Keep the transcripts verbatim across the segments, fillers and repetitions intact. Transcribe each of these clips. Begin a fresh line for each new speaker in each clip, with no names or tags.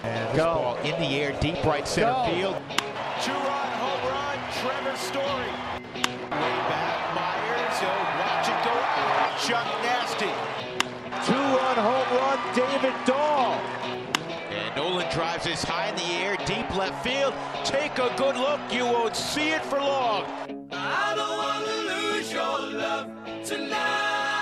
And this
Go.
ball in the air, deep right center
Go.
field. Two-run home run, Trevor Story. Way back, Myers. He'll watch it go out. Chuck Nasty.
Two-run home run, David Dahl.
And Nolan drives this high in the air, deep left field. Take a good look. You won't see it for long.
I don't want to lose your love tonight.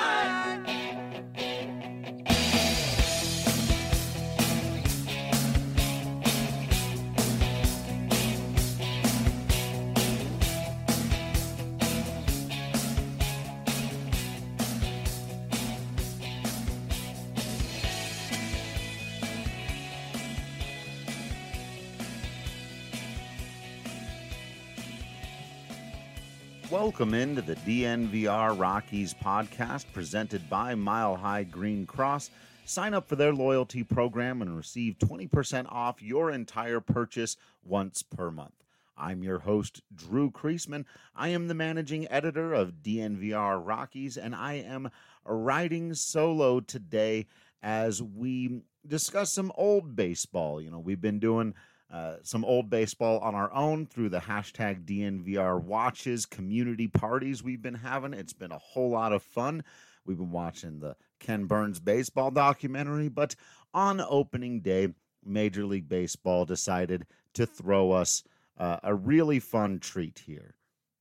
Welcome into the D N V R Rockies podcast presented by Mile High Green Cross. Sign up for their loyalty program and receive twenty percent off your entire purchase once per month. I'm your host, Drew Kreisman. I am the managing editor of D N V R Rockies, and I am riding solo today as we discuss some old baseball. You know, we've been doing Uh, some old baseball on our own through the hashtag D N V R watches, community parties we've been having. It's been a whole lot of fun. We've been watching the Ken Burns baseball documentary, but on opening day, Major League Baseball decided to throw us uh, a really fun treat here.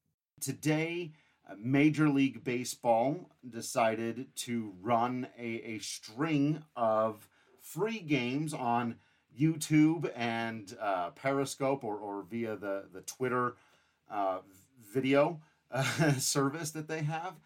Today, uh, Major League Baseball decided to run a, a string of free games on YouTube and uh, Periscope or, or via the, the Twitter uh, video uh, service that they have.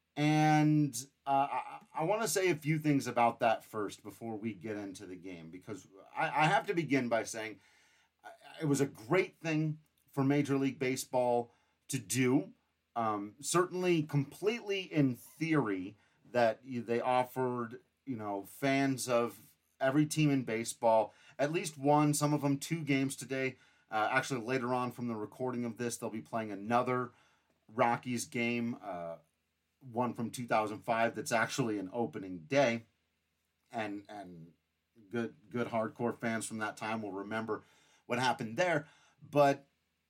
And uh, I, I want to say a few things about that first before we get into the game, because I, I have to begin by saying it was a great thing for Major League Baseball to do. Um, certainly completely in theory that they offered, you know, fans of every team in baseball at least one, some of them two games today. Uh, actually, later on from the recording of this, they'll be playing another Rockies game, uh, one from two thousand five that's actually an opening day. And and good good hardcore fans from that time will remember what happened there. But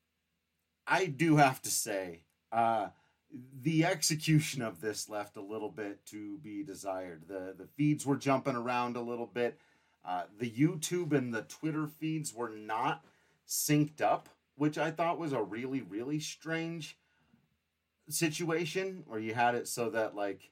I do have to say, uh, the execution of this left a little bit to be desired. The, the feeds were jumping around a little bit. Uh, the YouTube and the Twitter feeds were not synced up, which I thought was a really, really strange situation where you had it so that, like,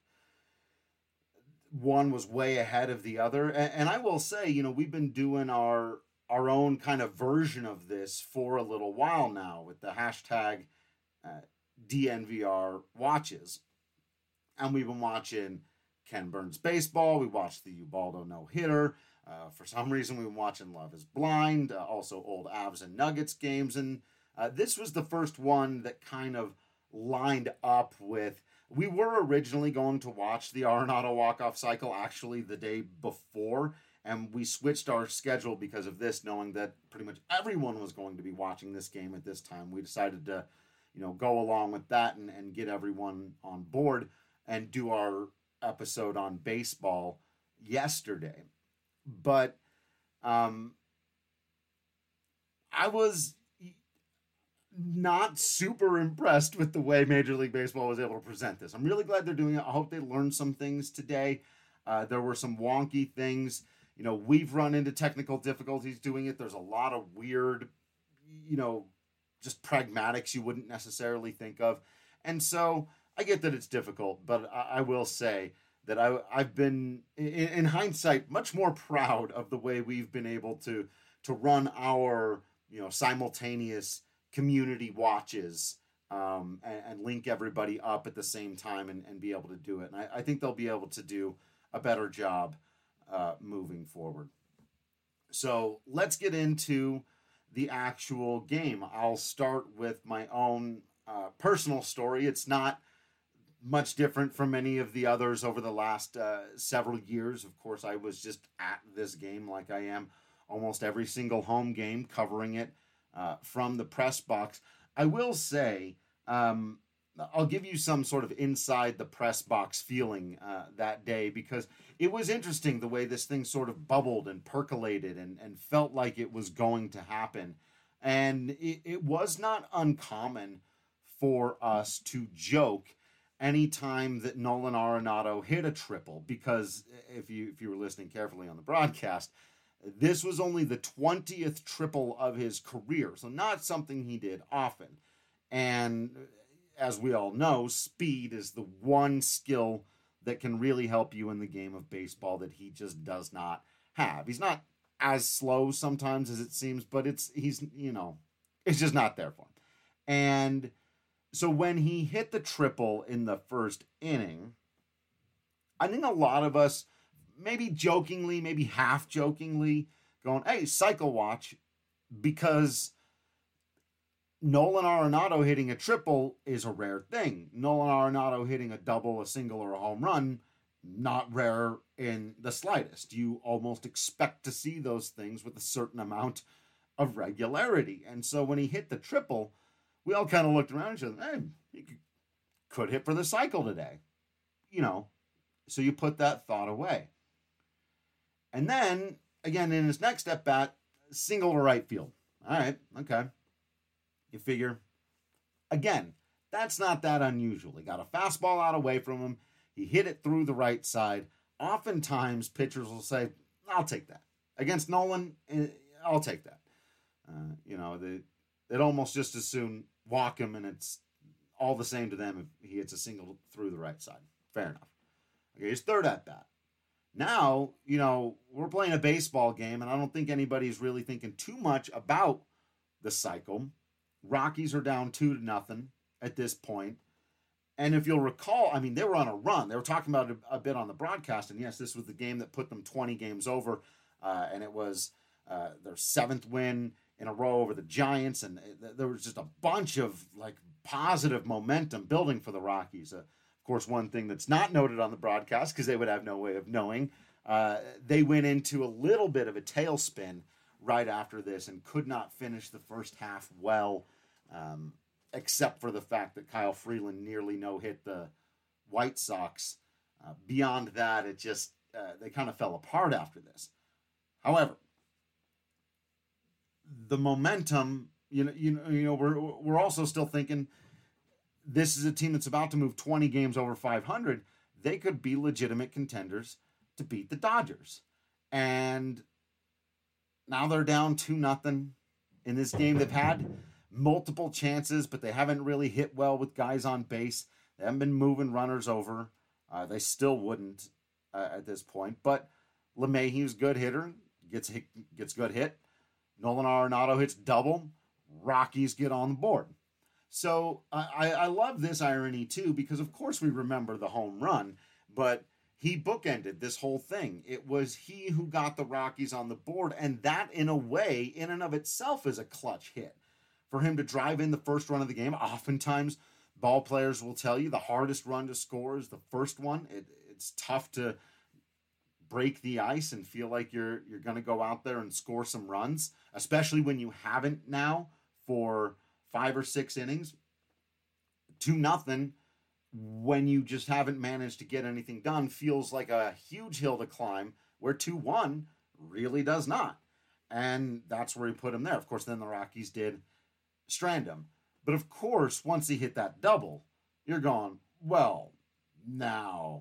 one was way ahead of the other. And, and I will say, you know, we've been doing our our own kind of version of this for a little while now with the hashtag uh, D N V R watches. And we've been watching Ken Burns baseball. We watched the Ubaldo no-hitter. Uh, for some reason, we've been watching Love is Blind, uh, also old Avs and Nuggets games. And uh, this was the first one that kind of lined up with... We were originally going to watch the Arenado walk-off cycle actually the day before, and we switched our schedule because of this, knowing that pretty much everyone was going to be watching this game at this time. We decided to, you know, go along with that and, and get everyone on board and do our episode on baseball yesterday. But um, I was not super impressed with the way Major League Baseball was able to present this. I'm really glad they're doing it. I hope they learned some things today. Uh, there were some wonky things. You know, we've run into technical difficulties doing it. There's a lot of weird, you know, just pragmatics you wouldn't necessarily think of. And so I get that it's difficult, but I, I will say that I, I've been, in, in hindsight, much more proud of the way we've been able to to run our, you know, simultaneous community watches um, and, and link everybody up at the same time and, and be able to do it. And I, I think they'll be able to do a better job uh, moving forward. So let's get into the actual game. I'll start with my own uh, personal story. It's not much different from any of the others over the last uh, several years. Of course, I was just at this game like I am almost every single home game, covering it uh, from the press box. I will say, um, I'll give you some sort of inside the press box feeling uh, that day, because it was interesting the way this thing sort of bubbled and percolated and, and felt like it was going to happen. And it, it was not uncommon for us to joke anytime that Nolan Arenado hit a triple, because if you if you were listening carefully on the broadcast, this was only the twentieth triple of his career, so not something he did often. And as we all know, speed is the one skill that can really help you in the game of baseball that he just does not have. He's not as slow sometimes as it seems, but it's he's, you know, it's just not there for him. And so when he hit the triple in the first inning, I think a lot of us, maybe jokingly, maybe half jokingly, going, hey, cycle watch, because Nolan Arenado hitting a triple is a rare thing. Nolan Arenado hitting a double, a single, or a home run, not rare in the slightest. You almost expect to see those things with a certain amount of regularity. And so when he hit the triple, we all kind of looked around and said, hey, he could hit for the cycle today. You know, so you put that thought away. And then, again, in his next at bat, single to right field. All right, okay. You figure, again, that's not that unusual. He got a fastball out away from him. He hit it through the right side. Oftentimes, pitchers will say, I'll take that. Against Nolan, I'll take that. Uh, you know, they, they'd almost just as soon walk him, and it's all the same to them if he hits a single through the right side. Fair enough. Okay, his third at-bat. Now, you know, we're playing a baseball game, and I don't think anybody's really thinking too much about the cycle. Rockies are down two to nothing at this point. And if you'll recall, I mean, they were on a run. They were talking about it a bit on the broadcast. And yes, this was the game that put them twenty games over. Uh, and it was uh, their seventh win in a row over the Giants. And there was just a bunch of like positive momentum building for the Rockies. Uh, of course, one thing that's not noted on the broadcast, because they would have no way of knowing, uh, they went into a little bit of a tailspin right after this and could not finish the first half well. Um, except for the fact that Kyle Freeland nearly no-hit the White Sox. Uh, beyond that, it just, uh, they kind of fell apart after this. However, the momentum, you know, you know, you know, we're, we're also still thinking this is a team that's about to move twenty games over five hundred. They could be legitimate contenders to beat the Dodgers. And now they're down two nothing in this game. They've had multiple chances, but they haven't really hit well with guys on base. They haven't been moving runners over. Uh, they still wouldn't uh, at this point. But LeMahieu's good hitter, gets hit, gets good hit. Nolan Arenado hits double. Rockies get on the board. So uh, I, I love this irony too, because of course we remember the home run, but he bookended this whole thing. It was he who got the Rockies on the board, and that in a way, in and of itself, is a clutch hit. For him to drive in the first run of the game, oftentimes ball players will tell you the hardest run to score is the first one. It, it's tough to break the ice and feel like you're you're going to go out there and score some runs, especially when you haven't now for five or six innings. Two nothing when you just haven't managed to get anything done feels like a huge hill to climb, where two one really does not. And that's where he put him there. Of course, then the Rockies did strand him. But of course, once he hit that double, you're going, well, now,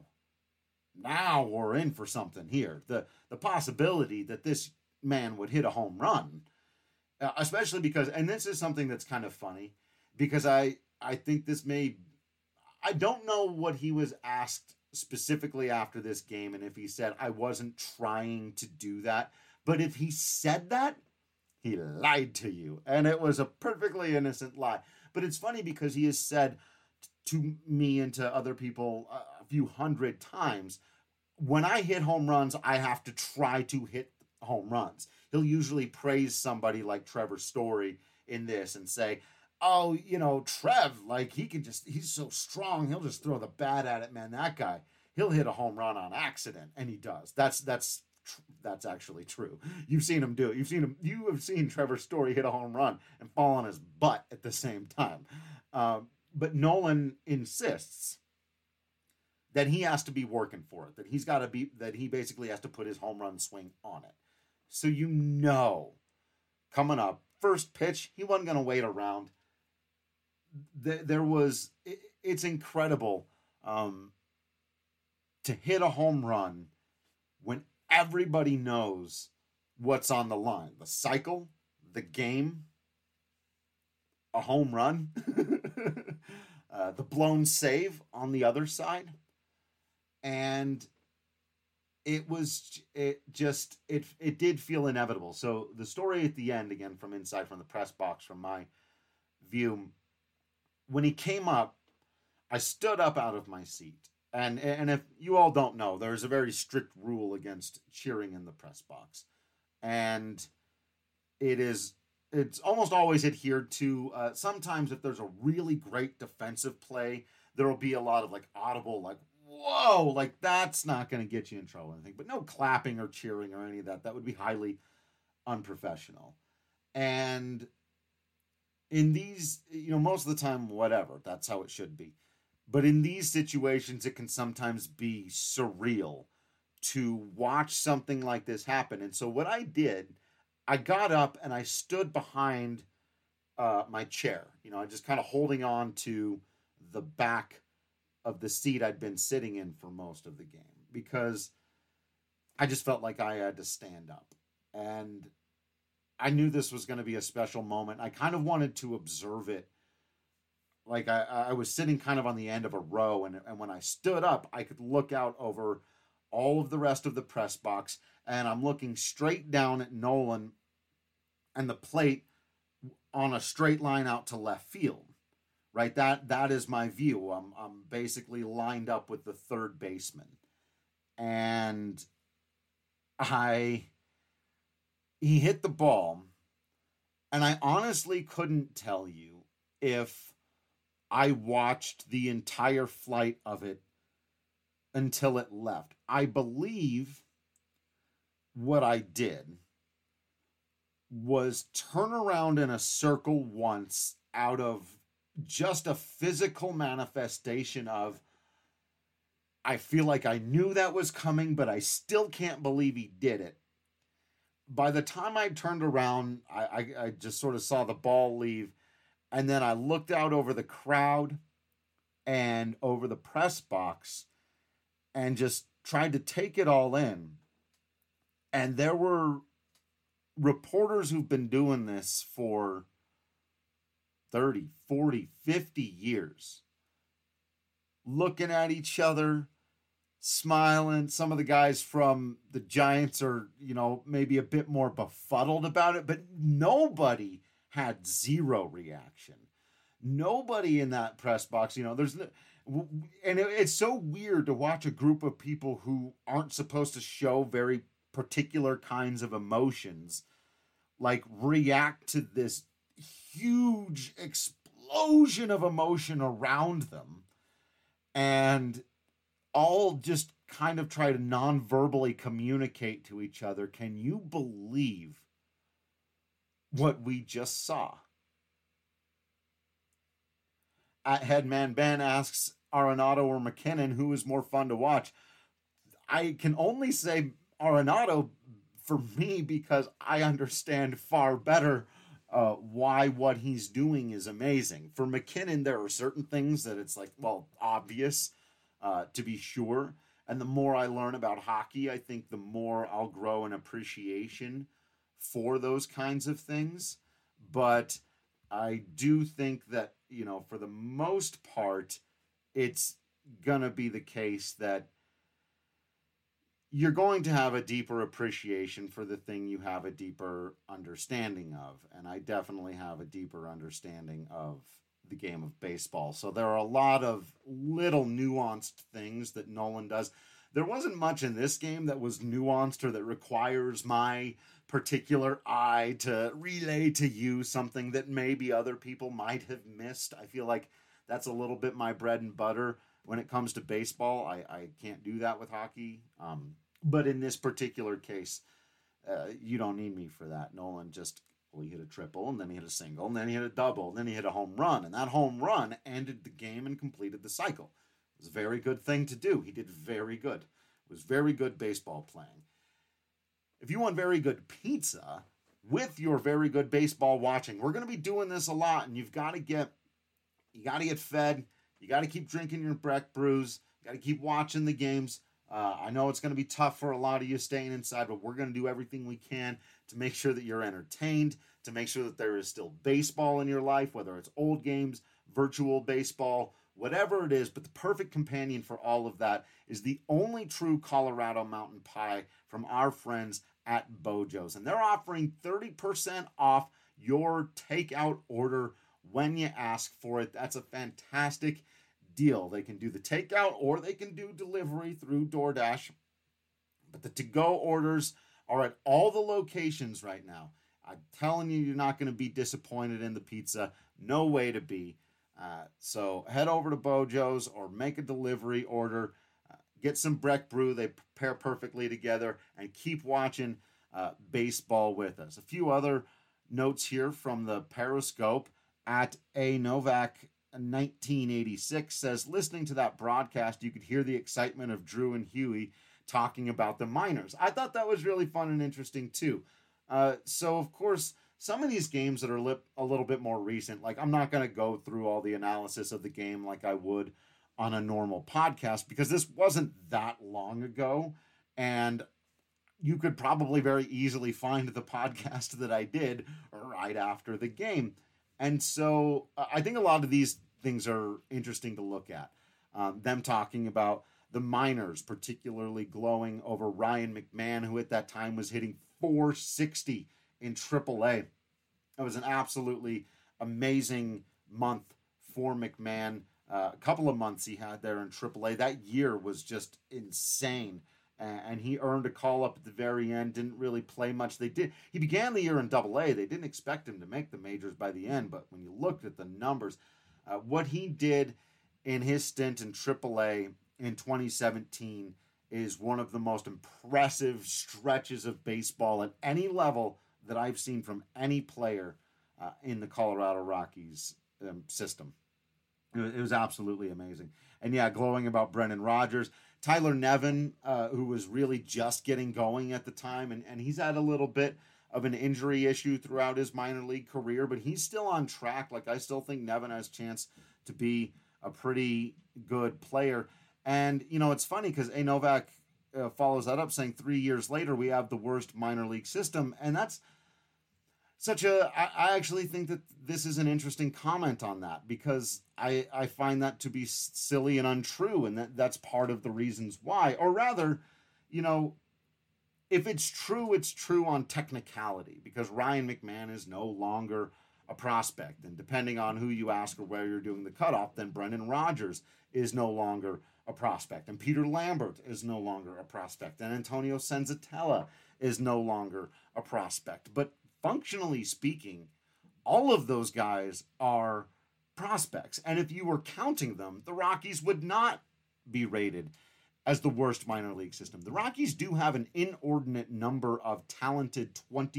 now we're in for something here. The the possibility that this man would hit a home run, uh, especially because, and this is something that's kind of funny, because I, I think this may, I don't know what he was asked specifically after this game, and if he said, I wasn't trying to do that. But if he said that, he lied to you, and it was a perfectly innocent lie. But it's funny because he has said to me and to other people a few hundred times, when I hit home runs, I have to try to hit home runs. He'll usually praise somebody like Trevor Story in this and say, oh, you know, Trev, like he can just, he's so strong, he'll just throw the bat at it, man. That guy, he'll hit a home run on accident, and he does. That's, that's, That's actually true. You've seen him do it. You've seen him. You have seen Trevor Story hit a home run and fall on his butt at the same time. Um, but Nolan insists that he has to be working for it, that he's got to be, that he basically has to put his home run swing on it. So you know, coming up, first pitch, he wasn't going to wait around. There was, it's incredible um, to hit a home run when everybody knows what's on the line. The cycle, the game, a home run, uh, the blown save on the other side. And it was, it just, it it did feel inevitable. So the story at the end, again, from inside, from the press box, from my view, when he came up, I stood up out of my seat. And, and if you all don't know, there's a very strict rule against cheering in the press box. And it is, it's almost always adhered to. Uh, sometimes if there's a really great defensive play, there will be a lot of like audible, like, whoa, like that's not going to get you in trouble or anything. But no clapping or cheering or any of that. That would be highly unprofessional. And in these, you know, most of the time, whatever, that's how it should be. But in these situations, it can sometimes be surreal to watch something like this happen. And so what I did, I got up and I stood behind uh, my chair. You know, I just kind of holding on to the back of the seat I'd been sitting in for most of the game, because I just felt like I had to stand up. And I knew this was going to be a special moment. I kind of wanted to observe it. Like I, I was sitting kind of on the end of a row, and, and when I stood up, I could look out over all of the rest of the press box, and I'm looking straight down at Nolan and the plate on a straight line out to left field. Right? That that is my view. I'm I'm basically lined up with the third baseman. And I he hit the ball, and I honestly couldn't tell you if I watched the entire flight of it until it left. I believe what I did was turn around in a circle once out of just a physical manifestation of, I feel like I knew that was coming, but I still can't believe he did it. By the time I turned around, I, I, I just sort of saw the ball leave. And then I looked out over the crowd and over the press box and just tried to take it all in. And there were reporters who've been doing this for thirty, forty, fifty years, looking at each other, smiling. Some of the guys from the Giants are, you know, maybe a bit more befuddled about it, but nobody had zero reaction. Nobody in that press box, you know, there's no, and it, it's so weird to watch a group of people who aren't supposed to show very particular kinds of emotions, like react to this huge explosion of emotion around them, and all just kind of try to non-verbally communicate to each other. Can you believe what we just saw? At Headman Ben asks Arenado or McKinnon, who is more fun to watch? I can only say Arenado for me, because I understand far better uh, why what he's doing is amazing. For McKinnon, there are certain things that it's like, well, obvious, uh, to be sure. And the more I learn about hockey, I think the more I'll grow an appreciation for those kinds of things. But I do think that, you know, for the most part, it's gonna be the case that you're going to have a deeper appreciation for the thing you have a deeper understanding of. And I definitely have a deeper understanding of the game of baseball. So there are a lot of little nuanced things that Nolan does. There wasn't much in this game that was nuanced or that requires my particular eye to relay to you something that maybe other people might have missed. I feel like that's a little bit my bread and butter when it comes to baseball. I, I can't do that with hockey. Um, but in this particular case, uh, you don't need me for that. Nolan just Well, he hit a triple, and then he hit a single, and then he hit a double, and then he hit a home run. And that home run ended the game and completed the cycle. It was a very good thing to do. He did very good. It was very good baseball playing. If you want very good pizza with your very good baseball watching, we're going to be doing this a lot, and you've got to get, you got to get fed. You got to keep drinking your Breck brews. You got to keep watching the games. Uh, I know it's going to be tough for a lot of you staying inside, but we're going to do everything we can to make sure that you're entertained, to make sure that there is still baseball in your life, whether it's old games, virtual baseball, whatever it is. But the perfect companion for all of that is the only true Colorado Mountain Pie from our friends at Bojo's. And they're offering thirty percent off your takeout order when you ask for it. That's a fantastic deal. They can do the takeout or they can do delivery through DoorDash. But the to-go orders are at all the locations right now. I'm telling you, you're not going to be disappointed in the pizza. No way to be. Uh, so head over to Bojo's or make a delivery order. Uh, get some Breck Brew. They pair perfectly together. And keep watching uh, baseball with us. A few other notes here from the Periscope. At A Novak nineteen eighty-six says, listening to that broadcast, you could hear the excitement of Drew and Huey talking about the minors. I thought that was really fun and interesting too. Uh, so, of course, some of these games that are lip, a little bit more recent, like I'm not going to go through all the analysis of the game like I would on a normal podcast because this wasn't that long ago. And you could probably very easily find the podcast that I did right after the game. And so uh, I think a lot of these things are interesting to look at. Um, them talking about the minors, particularly glowing over Ryan McMahon, who at that time was hitting four sixty in triple A. It was an absolutely amazing month for McMahon. Uh, a couple of months he had there in triple A. That year was just insane. And he earned a call up at the very end, didn't really play much. They did. He began the year in double A. They didn't expect him to make the majors by the end, but when you looked at the numbers, uh, what he did in his stint in triple A in twenty seventeen is one of the most impressive stretches of baseball at any level that I've seen from any player uh, in the Colorado Rockies um, system. It was, it was absolutely amazing. And yeah, glowing about Brendan Rodgers. Tyler Nevin, uh, who was really just getting going at the time, and, and he's had a little bit of an injury issue throughout his minor league career, but he's still on track. Like, I still think Nevin has a chance to be a pretty good player. And, you know, it's funny because A. Novak uh, follows that up saying three years later we have the worst minor league system, and that's such a, I, I actually think that this is an interesting comment on that because I, I find that to be silly and untrue, and that, that's part of the reasons why. Or rather, you know, if it's true, it's true on technicality because Ryan McMahon is no longer a prospect. And depending on who you ask or where you're doing the cutoff, then Brendan Rodgers is no longer a prospect. And Peter Lambert is no longer a prospect. And Antonio Senzatella is no longer a prospect. But functionally speaking, all of those guys are prospects. And if you were counting them, the Rockies would not be rated as the worst minor league system. The Rockies do have an inordinate number of talented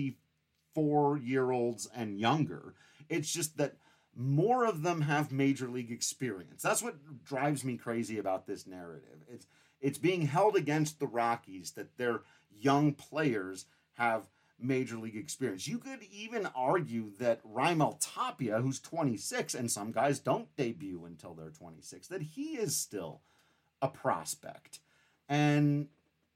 twenty-four-year-olds and younger. It's just that more of them have major league experience. That's what drives me crazy about this narrative. It's it's being held against the Rockies that their young players have major league experience. You could even argue that Raimel Tapia, who's twenty-six, and some guys don't debut until they're twenty-six, that he is still a prospect. And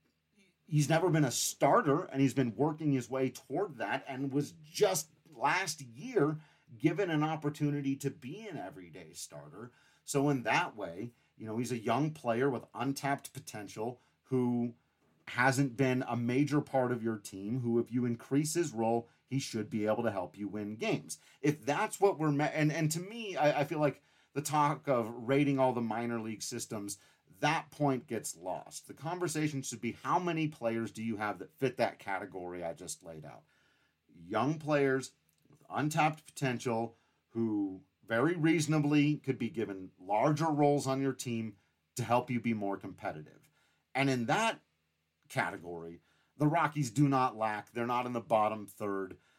he's never been a starter, and he's been working his way toward that, and was just last year given an opportunity to be an everyday starter. So in that way, you know, he's a young player with untapped potential who hasn't been a major part of your team, who, if you increase his role, he should be able to help you win games. If that's what we're, me- and, and to me, I, I feel like the talk of rating all the minor league systems, that point gets lost. The conversation should be, how many players do you have that fit that category I just laid out? Young players with untapped potential who very reasonably could be given larger roles on your team to help you be more competitive. And in that category, the Rockies do not lack. They're not in the bottom third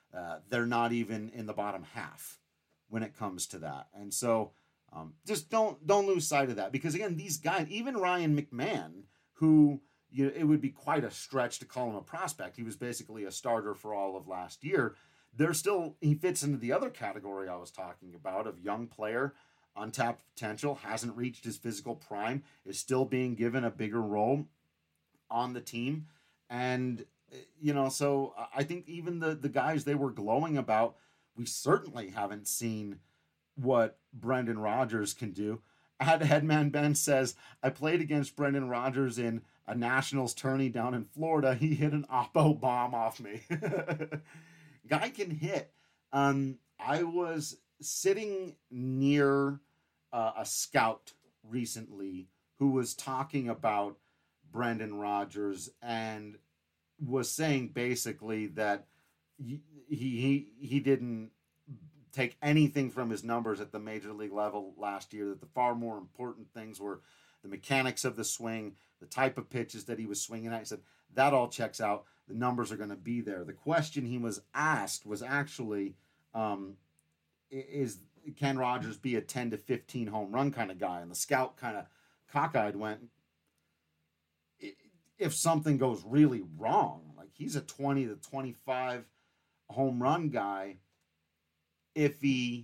Uh, they're not even in the bottom half when it comes to that. And so um, just don't don't lose sight of that, because again, these guys, even Ryan McMahon, who you know, it would be quite a stretch to call him a prospect. He was basically a starter for all of last year. They're still, he fits into the other category I was talking about of young player, untapped potential, hasn't reached his physical prime, is still being given a bigger role on the team. And, you know, so I think even the, the guys they were glowing about, we certainly haven't seen what Brendan Rodgers can do. Ad Headman Ben says, I played against Brendan Rodgers in a Nationals tourney down in Florida. He hit an Oppo bomb off me. Guy can hit. Um, I was sitting near uh, a scout recently who was talking about Brendan Rodgers and was saying basically that he he he didn't take anything from his numbers at the major league level last year, that the far more important things were the mechanics of the swing, the type of pitches that he was swinging at. He said, that all checks out. The numbers are going to be there. The question he was asked was actually, um, is can Rodgers be a ten to fifteen home run kind of guy? And the scout kind of cockeyed went, if something goes really wrong, like he's a twenty to twenty-five home run guy, if he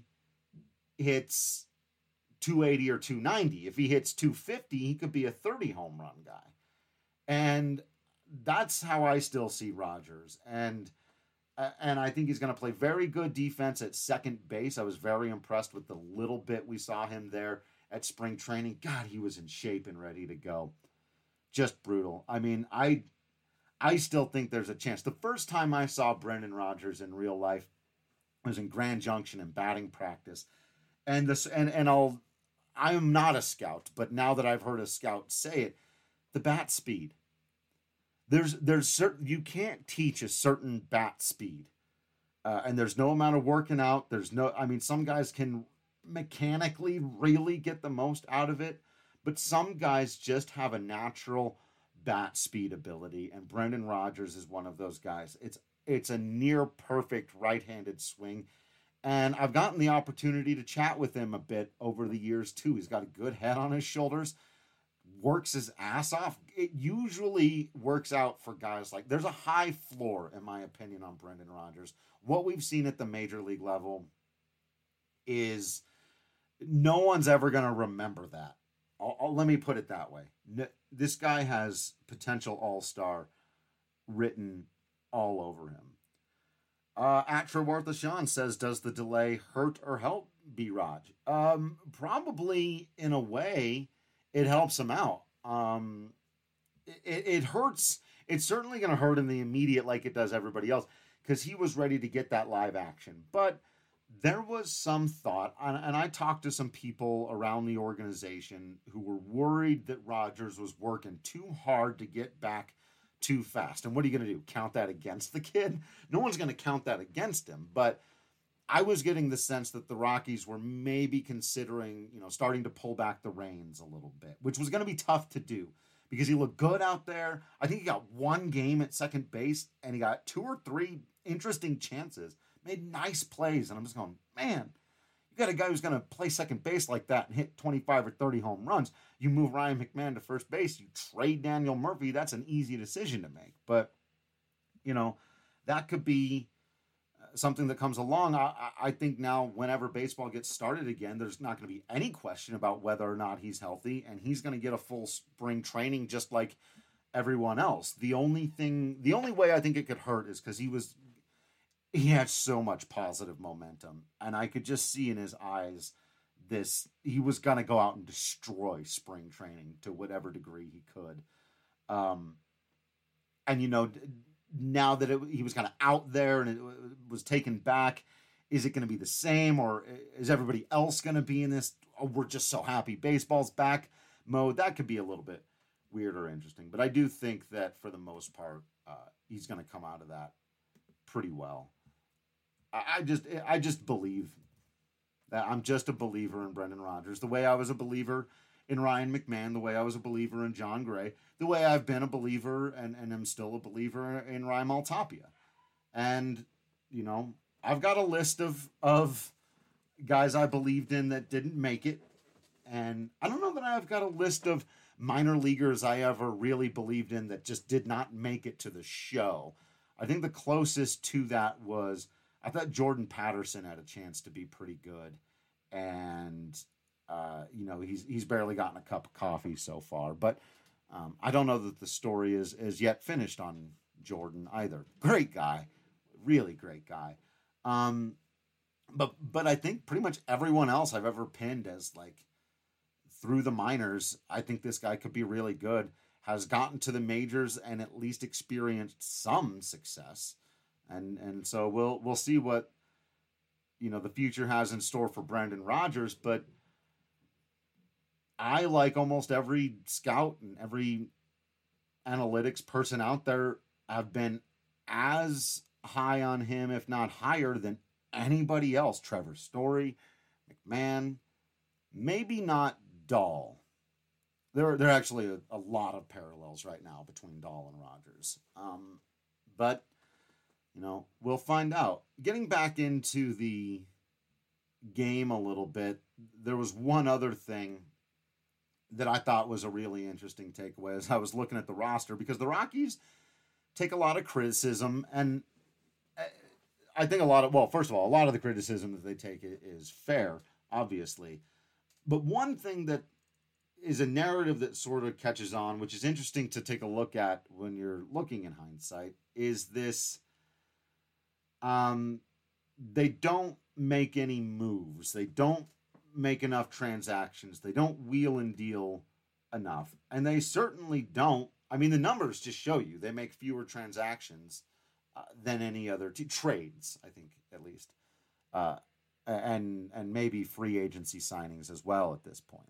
hits two eighty or two ninety. If he hits two fifty, he could be a thirty home run guy. And that's how I still see Rodgers. And uh, and I think he's going to play very good defense at second base. I was very impressed with the little bit we saw him there at spring training. God, he was in shape and ready to go. Just brutal. I mean, I I still think there's a chance. The first time I saw Brendan Rodgers in real life was in Grand Junction in batting practice. And this and and I'll I am not a scout, but now that I've heard a scout say it, the bat speed. There's there's certain you can't teach a certain bat speed, uh, and there's no amount of working out. There's no, I mean, some guys can mechanically really get the most out of it, but some guys just have a natural bat speed ability, and Brendan Rodgers is one of those guys. It's it's a near perfect right-handed swing. And I've gotten the opportunity to chat with him a bit over the years, too. He's got a good head on his shoulders, works his ass off. It usually works out for guys like, there's a high floor, in my opinion, on Brendan Rodgers. What we've seen at the major league level is no one's ever going to remember that. I'll, I'll, let me put it that way. No, this guy has potential all-star written all over him. Uh, at Trewortha Sean says, does the delay hurt or help B-Raj? Um, probably in a way it helps him out. Um, it, it hurts. It's certainly going to hurt in the immediate like it does everybody else because he was ready to get that live action. But there was some thought, and, and I talked to some people around the organization who were worried that Rodgers was working too hard to get back too fast. And what are you going to do? Count that against the kid? No one's going to count that against him. But I was getting the sense that the Rockies were maybe considering, you know, starting to pull back the reins a little bit, which was going to be tough to do because he looked good out there. I think he got one game at second base and he got two or three interesting chances, made nice plays. And I'm just going, man, you got a guy who's going to play second base like that and hit twenty-five or thirty home runs. You move Ryan McMahon to first base, you trade Daniel Murphy. That's an easy decision to make. But, you know, that could be something that comes along. I, I think now whenever baseball gets started again, there's not going to be any question about whether or not he's healthy, and he's going to get a full spring training just like everyone else. The only thing, the only way I think it could hurt is because he was, he had so much positive momentum, and I could just see in his eyes this, he was going to go out and destroy spring training to whatever degree he could. Um, and, you know, now that it, he was kind of out there and it was taken back, is it going to be the same, or is everybody else going to be in this, oh, we're just so happy baseball's back mode? That could be a little bit weird or interesting. But I do think that for the most part, uh, he's going to come out of that pretty well. I, I just, I just believe that I'm just a believer in Brendan Rodgers, the way I was a believer in Ryan McMahon, the way I was a believer in John Gray, the way I've been a believer and, and am still a believer in Raimel Tapia. And, you know, I've got a list of of guys I believed in that didn't make it. And I don't know that I've got a list of minor leaguers I ever really believed in that just did not make it to the show. I think the closest to that was, I thought Jordan Patterson had a chance to be pretty good. And, uh, you know, he's he's barely gotten a cup of coffee so far. But um, I don't know that the story is, is yet finished on Jordan either. Great guy. Really great guy. Um, but but I think pretty much everyone else I've ever pinned as, like, through the minors, I think this guy could be really good, has gotten to the majors and at least experienced some success. And and so we'll we'll see what, you know, the future has in store for Brendan Rodgers. But I, like almost every scout and every analytics person out there, have been as high on him, if not higher, than anybody else. Trevor Story, McMahon, maybe not Dahl. There, there are actually a, a lot of parallels right now between Dahl and Rodgers. Um, but, you know, we'll find out. Getting back into the game a little bit, there was one other thing that I thought was a really interesting takeaway as I was looking at the roster, because the Rockies take a lot of criticism, and I think a lot of, well, first of all, a lot of the criticism that they take is fair, obviously. But one thing that is a narrative that sort of catches on, which is interesting to take a look at when you're looking in hindsight, is this, um, they don't make any moves. They don't make enough transactions. They don't wheel and deal enough. And they certainly don't. I mean, the numbers just show you they make fewer transactions uh, than any other t- trades, I think, at least. Uh, and and maybe free agency signings as well at this point.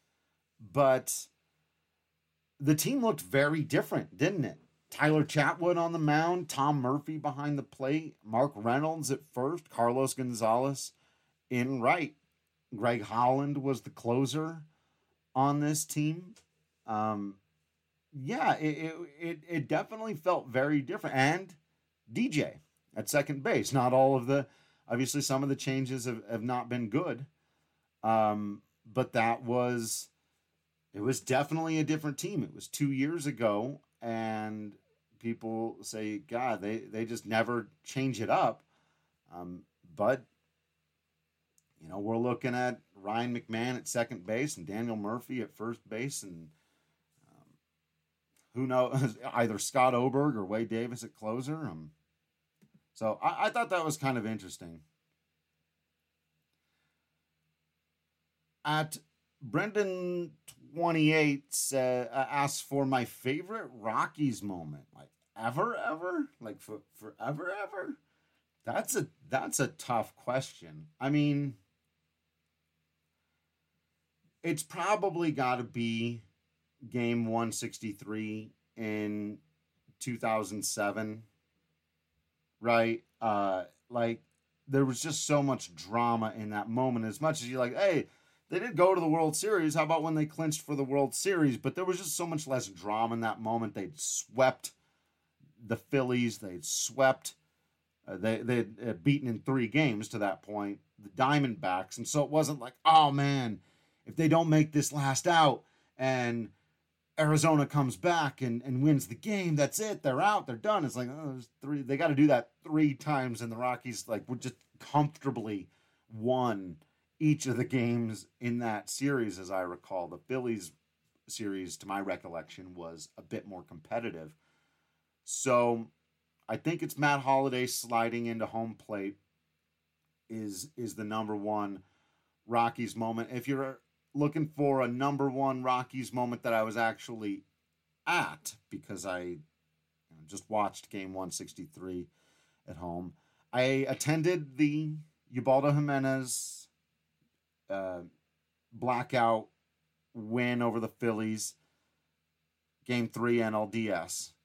But the team looked very different, didn't it? Tyler Chatwood on the mound, Tom Murphy behind the plate, Mark Reynolds at first, Carlos Gonzalez in right. Greg Holland was the closer on this team. Um, yeah, it, it it definitely felt very different. And D J at second base. Not all of the, obviously some of the changes have, have not been good. Um, but that was, it was definitely a different team. It was two years ago, and people say, God, they, they just never change it up. Um, but, you know, we're looking at Ryan McMahon at second base and Daniel Murphy at first base, and um, who knows, either Scott Oberg or Wade Davis at closer. Um, so I, I thought that was kind of interesting. At Brendan twenty-eight uh, asks for my favorite Rockies moment, like ever, ever, like for forever, ever. That's a that's a tough question. I mean, it's probably got to be game one sixty-three in two thousand seven, right? Uh, like, there was just so much drama in that moment. As much as you're like, hey, they did go to the World Series. How about when they clinched for the World Series? But there was just so much less drama in that moment. They'd swept the Phillies. They'd swept. Uh, they they'd uh, beaten in three games to that point the Diamondbacks. And so it wasn't like, oh, man, if they don't make this last out and Arizona comes back and, and wins the game, that's it. They're out. They're done. It's like, oh, there's three. They got to do that three times. And the Rockies, like, would just comfortably won each of the games in that series, as I recall. The Phillies series, to my recollection, was a bit more competitive. So I think it's Matt Holliday sliding into home plate is is the number one Rockies moment. If you're looking for a number one Rockies moment that I was actually at, because I you know, just watched game one sixty-three at home, I attended the Ubaldo Jimenez Uh, blackout win over the Phillies, game three N L D S.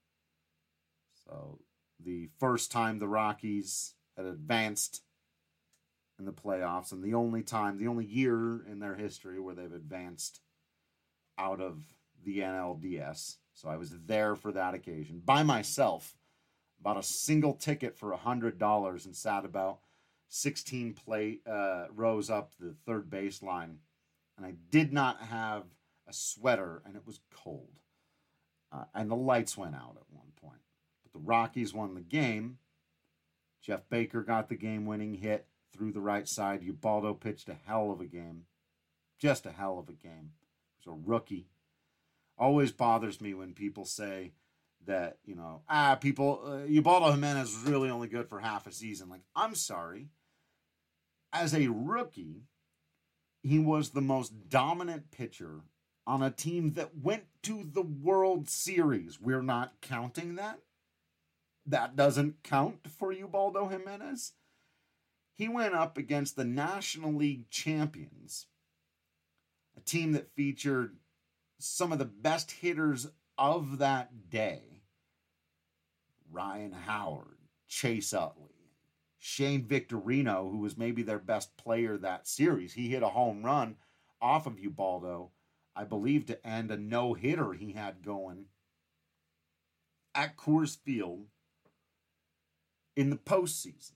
So the first time the Rockies had advanced in the playoffs, and the only time, the only year in their history where they've advanced out of the N L D S. So I was there for that occasion by myself, bought a single ticket for one hundred dollars and sat about sixteen plate uh, rows up the third baseline. And I did not have a sweater, and it was cold. Uh, and the lights went out at one point. But the Rockies won the game. Jeff Baker got the game-winning hit through the right side. Ubaldo pitched a hell of a game. Just a hell of a game. He was a rookie. Always bothers me when people say that, you know, ah, people, uh, Ubaldo Jimenez was really only good for half a season. Like, I'm sorry. As a rookie, he was the most dominant pitcher on a team that went to the World Series. We're not counting that. That doesn't count for Ubaldo Jimenez. He went up against the National League champions, a team that featured some of the best hitters of that day. Ryan Howard, Chase Utley, Shane Victorino, who was maybe their best player that series. He hit a home run off of Ubaldo, I believe, to end a no-hitter he had going at Coors Field in the postseason.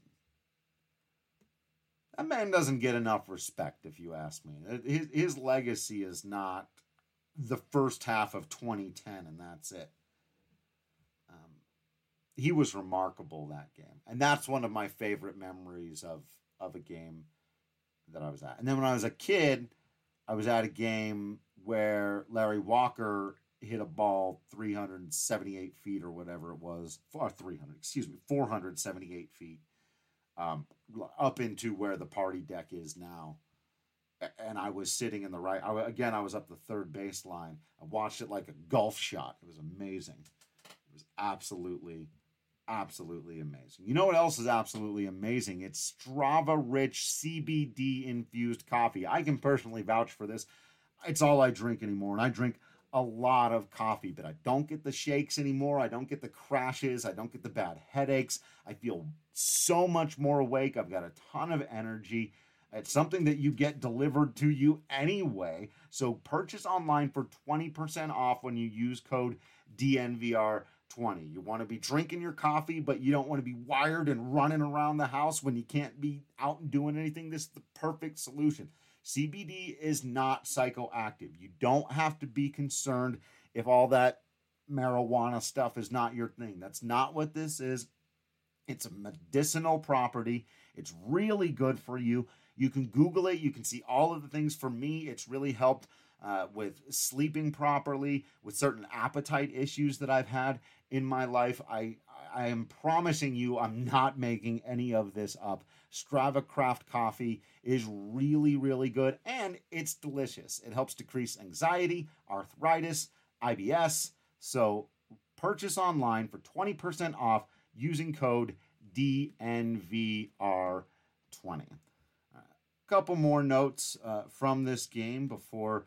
That man doesn't get enough respect, if you ask me. His, his legacy is not the first half of twenty ten, and that's it. Um, he was remarkable that game. And that's one of my favorite memories of, of a game that I was at. And then when I was a kid, I was at a game where Larry Walker hit a ball three hundred seventy-eight feet or whatever it was, or three hundred, excuse me, four hundred seventy-eight feet, um, up into where the party deck is now. And I was sitting in the right, I, again, I was up the third baseline. I watched it like a golf shot. It was amazing. It was absolutely, absolutely amazing. You know what else is absolutely amazing? It's Strava-rich C B D-infused coffee. I can personally vouch for this. It's all I drink anymore, and I drink a lot of coffee, but I don't get the shakes anymore. I don't get the crashes. I don't get the bad headaches. I feel so much more awake. I've got a ton of energy. It's something that you get delivered to you anyway. So purchase online for twenty percent off when you use code D N V R twenty. You want to be drinking your coffee, but you don't want to be wired and running around the house when you can't be out and doing anything. This is the perfect solution. C B D is not psychoactive. You don't have to be concerned if all that marijuana stuff is not your thing. That's not what this is. It's a medicinal property. It's really good for you. You can Google it. You can see all of the things. For me, it's really helped uh, with sleeping properly, with certain appetite issues that I've had in my life. I, I am promising you I'm not making any of this up. Strava Craft Coffee is really, really good, and it's delicious. It helps decrease anxiety, arthritis, I B S. So purchase online for twenty percent off using code D N V R twenty. A uh, couple more notes uh, from this game before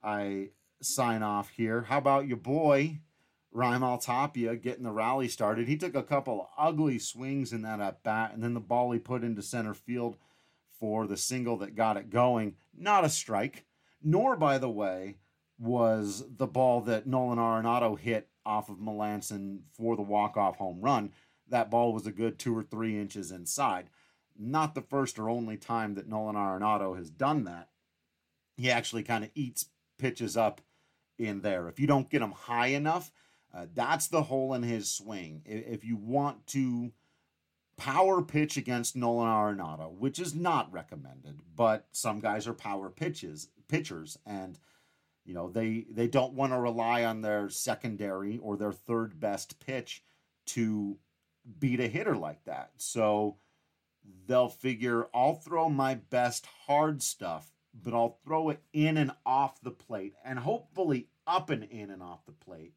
I sign off here. How about your boy, Raimel Tapia, getting the rally started? He took a couple ugly swings in that at bat, and then the ball he put into center field for the single that got it going. Not a strike, nor, by the way, was the ball that Nolan Arenado hit off of Melanson for the walk-off home run. That ball was a good two or three inches inside. Not the first or only time that Nolan Arenado has done that. He actually kind of eats pitches up in there. If you don't get him high enough, uh, that's the hole in his swing. If you want to power pitch against Nolan Arenado, which is not recommended, but some guys are power pitches pitchers, and you know they they don't want to rely on their secondary or their third best pitch to beat a hitter like that. So they'll figure, I'll throw my best hard stuff, but I'll throw it in and off the plate, and hopefully up and in and off the plate,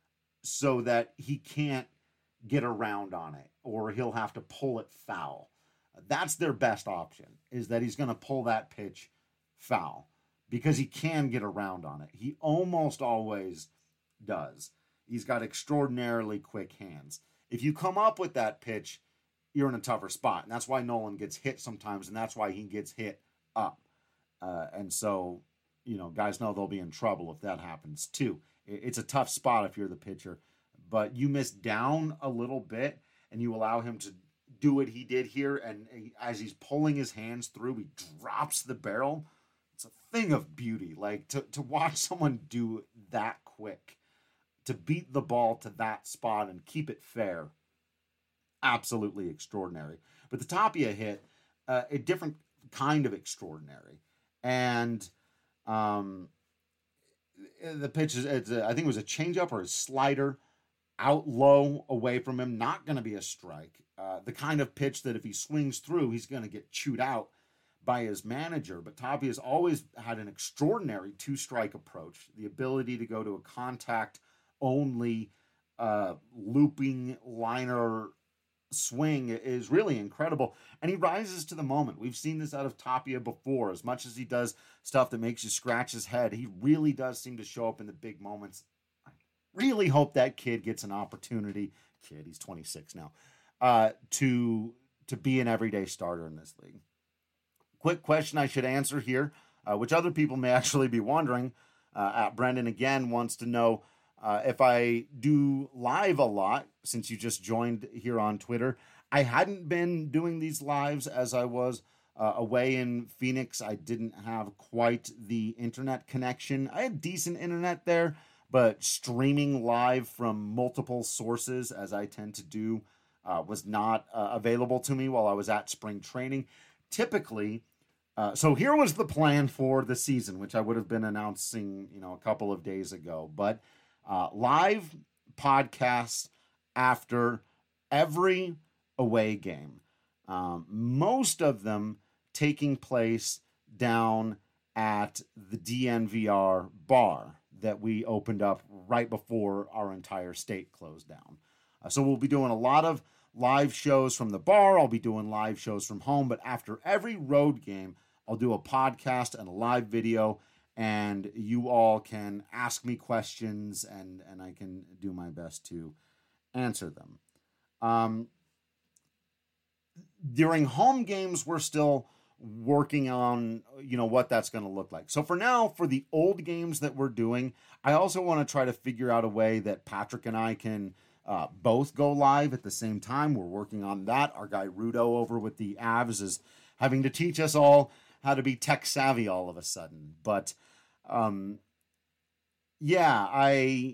so that he can't get around on it, or he'll have to pull it foul. That's their best option, is that he's going to pull that pitch foul, because he can get around on it. He almost always does. He's got extraordinarily quick hands. If you come up with that pitch, you're in a tougher spot. And that's why Nolan gets hit sometimes, and that's why he gets hit up. Uh, and so, you know, guys know they'll be in trouble if that happens too. It's a tough spot if you're the pitcher. But you miss down a little bit, and you allow him to do what he did here, and he, as he's pulling his hands through, he drops the barrel. It's a thing of beauty. Like, to, to watch someone do that quick, to beat the ball to that spot and keep it fair, absolutely extraordinary. But the Tapia hit, uh, a different kind of extraordinary. And um, the pitch is, it's a, I think it was a changeup or a slider, out low away from him, not going to be a strike. Uh, the kind of pitch that if he swings through, he's going to get chewed out by his manager. But Tapia's always had an extraordinary two-strike approach, the ability to go to a contact-only uh, looping liner swing is really incredible. And he rises to the moment. We've seen this out of Tapia before. As much as he does stuff that makes you scratch his head, he really does seem to show up in the big moments. Really hope that kid gets an opportunity. Kid, he's twenty-six now. Uh, to to be an everyday starter in this league. Quick question I should answer here, uh, which other people may actually be wondering. Uh, at Brendan again wants to know uh, if I do live a lot since you just joined here on Twitter. I hadn't been doing these lives as I was uh, away in Phoenix. I didn't have quite the internet connection. I had decent internet there, but streaming live from multiple sources, as I tend to do, uh, was not uh, available to me while I was at spring training. Typically, uh, so here was the plan for the season, which I would have been announcing, you know, a couple of days ago. But uh, live podcasts after every away game, um, most of them taking place down at the D N V R bar that we opened up right before our entire state closed down. Uh, so we'll be doing a lot of live shows from the bar. I'll be doing live shows from home, but after every road game, I'll do a podcast and a live video, and you all can ask me questions, and, and I can do my best to answer them. Um, during home games, we're still working on, you know, what that's going to look like. So for now, for the old games that we're doing, I also want to try to figure out a way that Patrick and I can uh, both go live at the same time. We're working on that. Our guy Rudo over with the Avs is having to teach us all how to be tech savvy all of a sudden. But um, yeah, I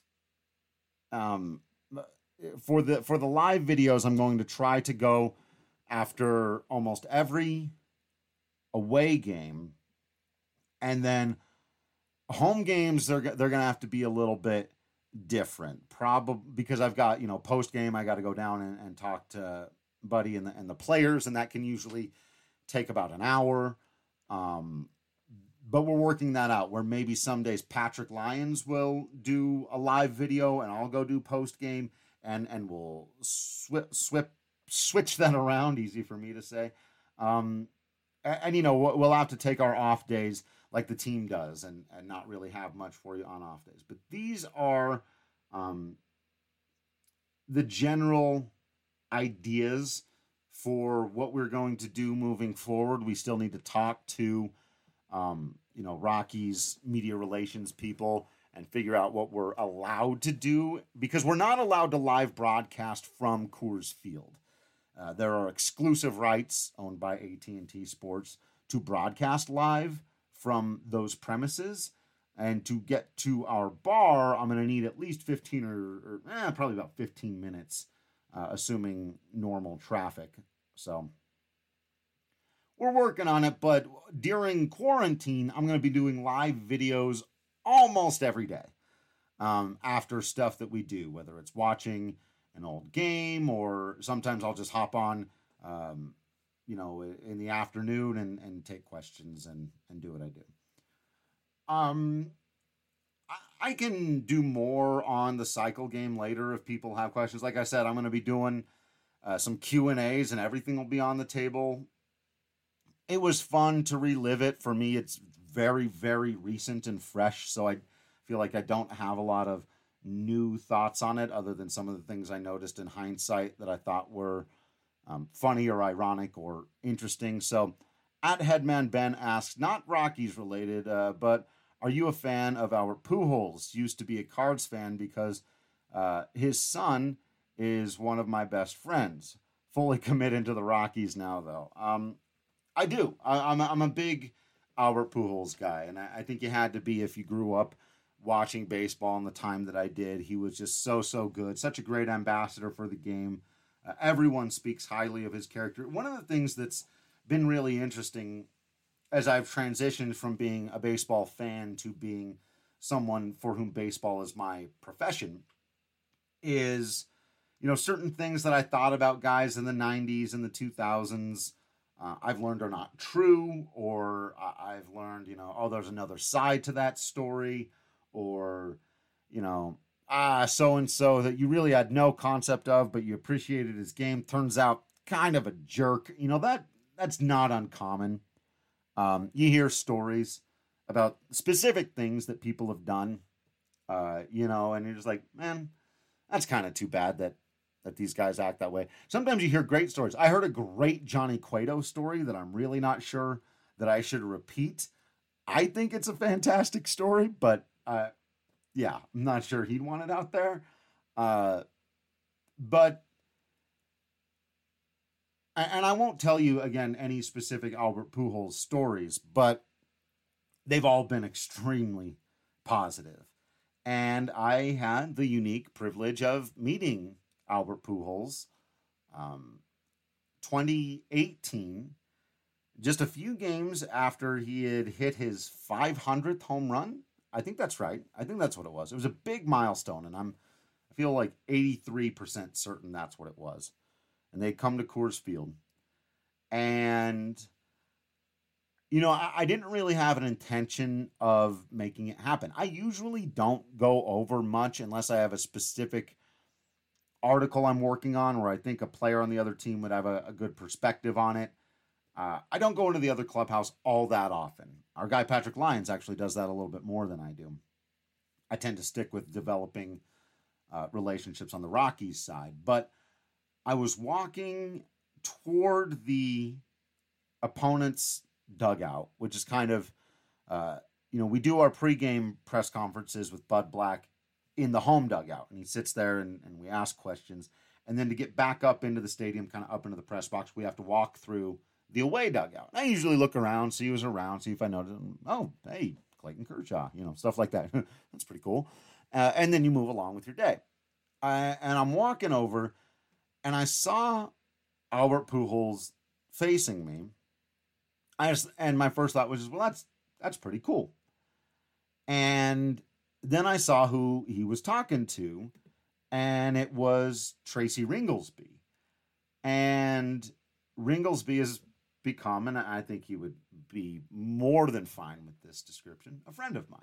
um, for the for the live videos, I'm going to try to go after almost every away game, and then home games they're they're gonna have to be a little bit different, probably because I've got, you know, post game I got to go down and, and talk to Buddy and the and the players, and that can usually take about an hour. Um, but we're working that out where maybe some days Patrick Lyons will do a live video and I'll go do post game, and and we'll swip swip switch that around. Easy for me to say. Um, And, and, you know, we'll have to take our off days like the team does and, and not really have much for you on off days. But these are um, the general ideas for what we're going to do moving forward. We still need to talk to, um, you know, Rockies media relations people and figure out what we're allowed to do, because we're not allowed to live broadcast from Coors Field. Uh, there are exclusive rights owned by A T and T Sports to broadcast live from those premises. And to get to our bar, I'm going to need at least fifteen or, or eh, probably about fifteen minutes, uh, assuming normal traffic. So we're working on it. But during quarantine, I'm going to be doing live videos almost every day um, after stuff that we do, whether it's watching an old game, or sometimes I'll just hop on, um, you know, in the afternoon and, and take questions and, and do what I do. Um, I, I can do more on the cycle game later if people have questions. Like I said, I'm going to be doing uh, some Q and A's, and everything will be on the table. It was fun to relive it. For me, it's very, very recent and fresh, so I feel like I don't have a lot of new thoughts on it other than some of the things I noticed in hindsight that I thought were um, funny or ironic or interesting. So at Headman Ben asks, not Rockies related, uh, but are you a fan of Albert Pujols? Used to be a Cards fan because uh, his son is one of my best friends. Fully committed to the Rockies now, though. Um, I do. I, I'm, a, I'm a big Albert Pujols guy, and I, I think you had to be if you grew up watching baseball in the time that I did. He was just so, so good. Such a great ambassador for the game. Uh, everyone speaks highly of his character. One of the things that's been really interesting as I've transitioned from being a baseball fan to being someone for whom baseball is my profession is, you know, certain things that I thought about guys in the nineties and the two thousands, uh, I've learned are not true, or I've learned, you know, oh, there's another side to that story, or, you know, ah, so-and-so that you really had no concept of, but you appreciated his game, turns out kind of a jerk. You know, that that's not uncommon. Um, you hear stories about specific things that people have done, uh, you know, and you're just like, man, that's kind of too bad that that these guys act that way. Sometimes you hear great stories. I heard a great Johnny Cueto story that I'm really not sure that I should repeat. I think it's a fantastic story, but uh, yeah, I'm not sure he'd want it out there. Uh, but, and I won't tell you, again, any specific Albert Pujols stories, but they've all been extremely positive. And I had the unique privilege of meeting Albert Pujols, um, twenty eighteen, just a few games after he had hit his five hundredth home run. I think that's right. I think that's what it was. It was a big milestone, and I'm, I feel like eighty-three percent certain that's what it was. And they come to Coors Field. And, you know, I, I didn't really have an intention of making it happen. I usually don't go over much unless I have a specific article I'm working on where I think a player on the other team would have a, a good perspective on it. Uh, I don't go into the other clubhouse all that often. Our guy Patrick Lyons actually does that a little bit more than I do. I tend to stick with developing uh, relationships on the Rockies side. But I was walking toward the opponent's dugout, which is kind of, uh, you know, we do our pregame press conferences with Bud Black in the home dugout, and he sits there and, and we ask questions. And then to get back up into the stadium, kind of up into the press box, we have to walk through the away dugout. I usually look around, see who's around, see if I notice, oh, hey, Clayton Kershaw, you know, stuff like that. That's pretty cool. Uh, and then you move along with your day. Uh, and I'm walking over, and I saw Albert Pujols facing me. I just, and my first thought was, well, that's that's pretty cool. And then I saw who he was talking to, and it was Tracy Ringolsby. And Ringolsby has become, and I think he would be more than fine with this description, a friend of mine.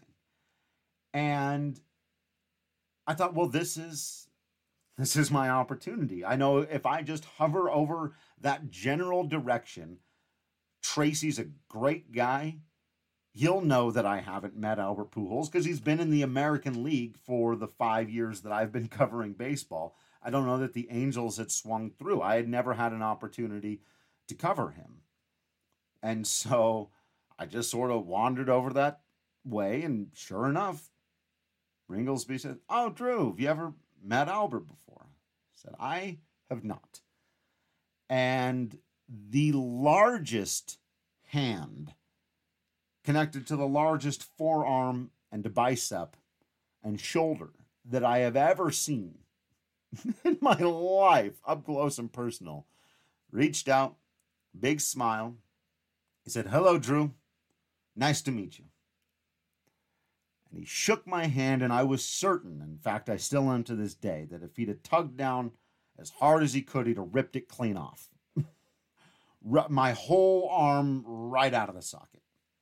And I thought, well, this is this is my opportunity. I know if I just hover over that general direction, Tracy's a great guy. He'll know that I haven't met Albert Pujols because he's been in the American League for the five years that I've been covering baseball. I don't know that the Angels had swung through. I had never had an opportunity to cover him. And so I just sort of wandered over that way, and sure enough, Ringolsby said, oh, Drew, have you ever met Albert before? I said, I have not. And the largest hand connected to the largest forearm and bicep and shoulder that I have ever seen in my life, up close and personal, reached out, big smile. He said, hello, Drew. Nice to meet you. And he shook my hand, and I was certain, in fact, I still am to this day, that if he'd have tugged down as hard as he could, he'd have ripped it clean off. My whole arm right out of the socket.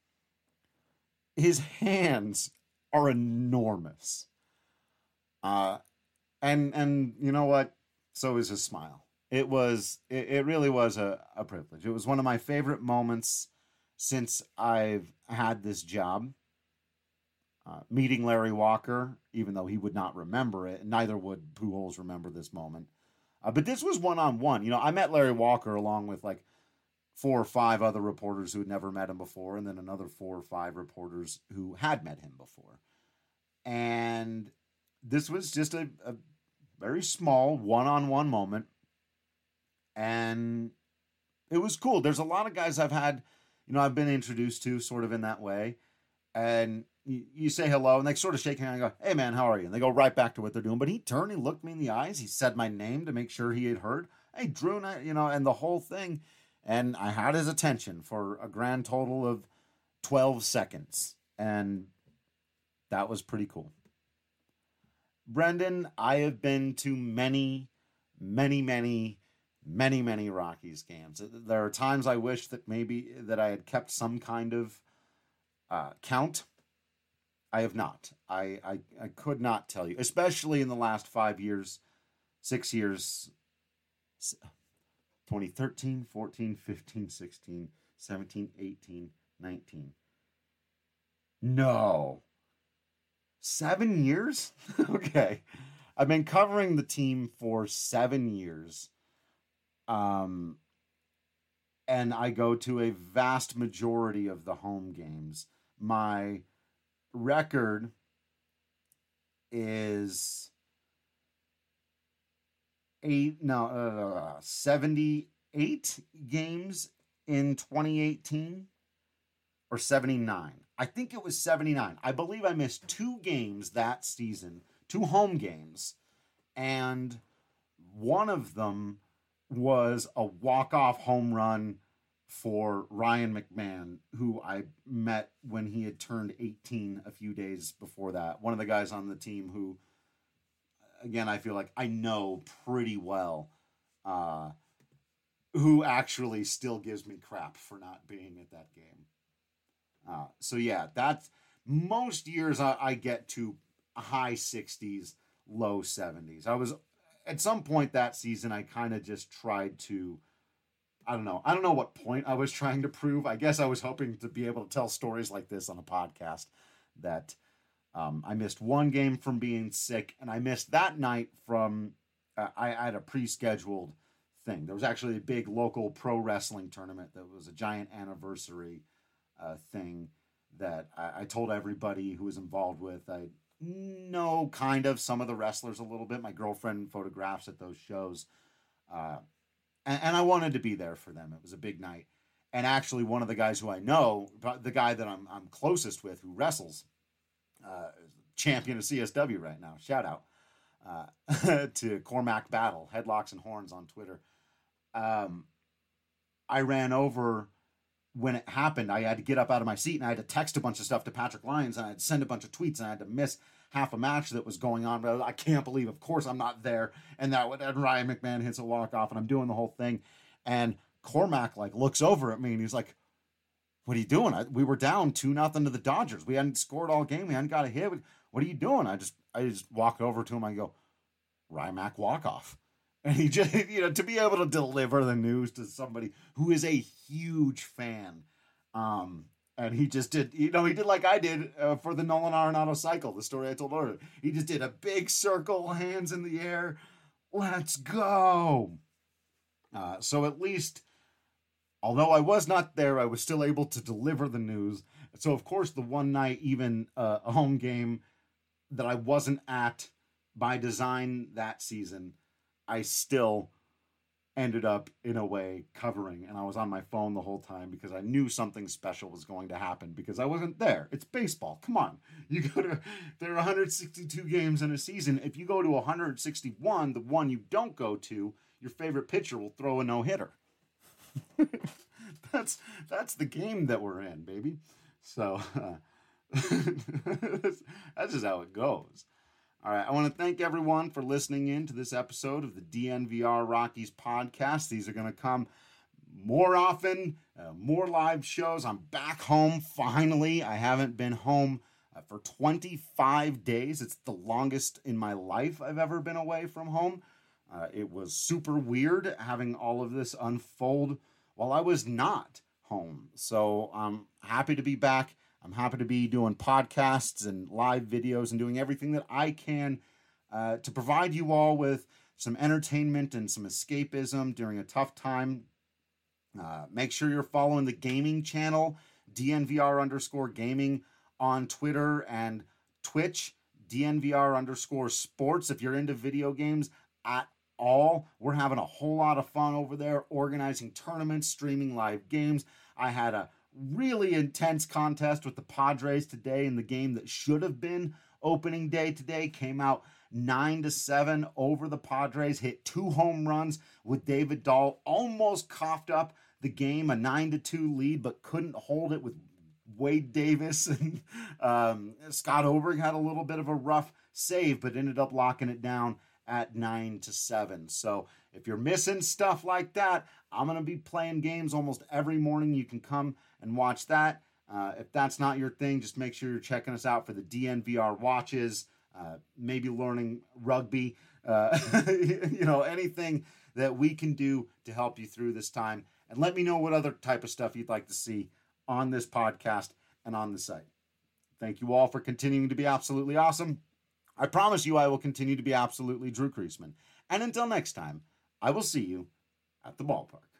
His hands are enormous. Uh, and, and you know what? So is his smile. It was, it, it really was a, a privilege. It was one of my favorite moments since I've had this job. Uh, meeting Larry Walker, even though he would not remember it, and neither would Pujols remember this moment. Uh, but this was one-on-one. You know, I met Larry Walker along with like four or five other reporters who had never met him before, and then another four or five reporters who had met him before. And this was just a, a, very small, one-on-one moment. And it was cool. There's a lot of guys I've had, you know, I've been introduced to sort of in that way. And you, you say hello, and they sort of shake hands and go, hey, man, how are you? And they go right back to what they're doing. But he turned, he looked me in the eyes. He said my name to make sure he had heard. Hey, Drew, and I, you know, and the whole thing. And I had his attention for a grand total of twelve seconds. And that was pretty cool. Brendan, I have been to many, many, many, many, many Rockies games. There are times I wish that maybe that I had kept some kind of uh, count. I have not. I, I, I could not tell you, especially in the last five years, six years, twenty thirteen, fourteen, fifteen, sixteen, seventeen, eighteen, nineteen. No. Seven years? Okay. I've been covering the team for seven years. Um, and I go to a vast majority of the home games. My record is eight, no, uh, seventy-eight games in twenty eighteen, or seventy-nine. I think it was seventy-nine. I believe I missed two games that season, two home games, and one of them was a walk-off home run for Ryan McMahon, who I met when he had turned eighteen a few days before that. One of the guys on the team who, again, I feel like I know pretty well, uh, who actually still gives me crap for not being at that game. Uh, so yeah, that's most years I, I get to high sixties, low seventies. I was at some point that season, I kind of just tried to, I don't know. I don't know what point I was trying to prove. I guess I was hoping to be able to tell stories like this on a podcast that um, I missed one game from being sick, and I missed that night from, uh, I, I had a pre-scheduled thing. There was actually a big local pro wrestling tournament that was a giant anniversary uh, thing that I, I told everybody who was involved with. I know kind of some of the wrestlers a little bit. My girlfriend photographs at those shows. Uh, and, and I wanted to be there for them. It was a big night. And actually one of the guys who I know, the guy that I'm, I'm closest with who wrestles, uh, champion of C S W right now, shout out uh, to Cormac Battle, Headlocks and Horns on Twitter. Um, I ran over when it happened. I had to get up out of my seat and I had to text a bunch of stuff to Patrick Lyons and I had to send a bunch of tweets and I had to miss half a match that was going on. But I can't believe, of course, I'm not there. And that and Ryan McMahon hits a walk off and I'm doing the whole thing. And Cormac like looks over at me and he's like, "What are you doing? I, we were down two nothing to the Dodgers. We hadn't scored all game. We hadn't got a hit. What are you doing?" I just I just walk over to him. I go, "Rymac walk off." And he just, you know, to be able to deliver the news to somebody who is a huge fan. Um, and he just did, you know, he did like I did uh, for the Nolan Arenado cycle, the story I told earlier. He just did a big circle, hands in the air. Let's go. Uh, so at least, although I was not there, I was still able to deliver the news. So, of course, the one night, even uh, a home game that I wasn't at by design that season, I still ended up, in a way, covering. And I was on my phone the whole time because I knew something special was going to happen because I wasn't there. It's baseball. Come on. You go to, there are one hundred sixty-two games in a season. If you go to one hundred sixty-one, the one you don't go to, your favorite pitcher will throw a no-hitter. that's, that's the game that we're in, baby. So, uh, that's just how it goes. All right, I want to thank everyone for listening in to this episode of the D N V R Rockies podcast. These are going to come more often, uh, more live shows. I'm back home finally. I haven't been home uh, for twenty-five days. It's the longest in my life I've ever been away from home. Uh, it was super weird having all of this unfold while I was not home. So I'm happy to be back. I'm happy to be doing podcasts and live videos and doing everything that I can uh, to provide you all with some entertainment and some escapism during a tough time. Uh, make sure you're following the gaming channel, D N V R underscore gaming on Twitter and Twitch. D N V R underscore sports. If you're into video games at all, we're having a whole lot of fun over there, organizing tournaments, streaming live games. I had a really intense contest with the Padres today in the game that should have been opening day today. Came out nine to seven over the Padres, hit two home runs with David Dahl, almost coughed up the game, a nine to two lead, but couldn't hold it with Wade Davis. And um, Scott Oberg had a little bit of a rough save, but ended up locking it down at nine to seven. So if you're missing stuff like that, I'm going to be playing games almost every morning. You can come and watch that. Uh, if that's not your thing, just make sure you're checking us out for the D N V R watches, uh, maybe learning rugby, uh, you know, anything that we can do to help you through this time. And let me know what other type of stuff you'd like to see on this podcast and on the site. Thank you all for continuing to be absolutely awesome. I promise you I will continue to be absolutely Drew Creasman. And until next time, I will see you at the ballpark.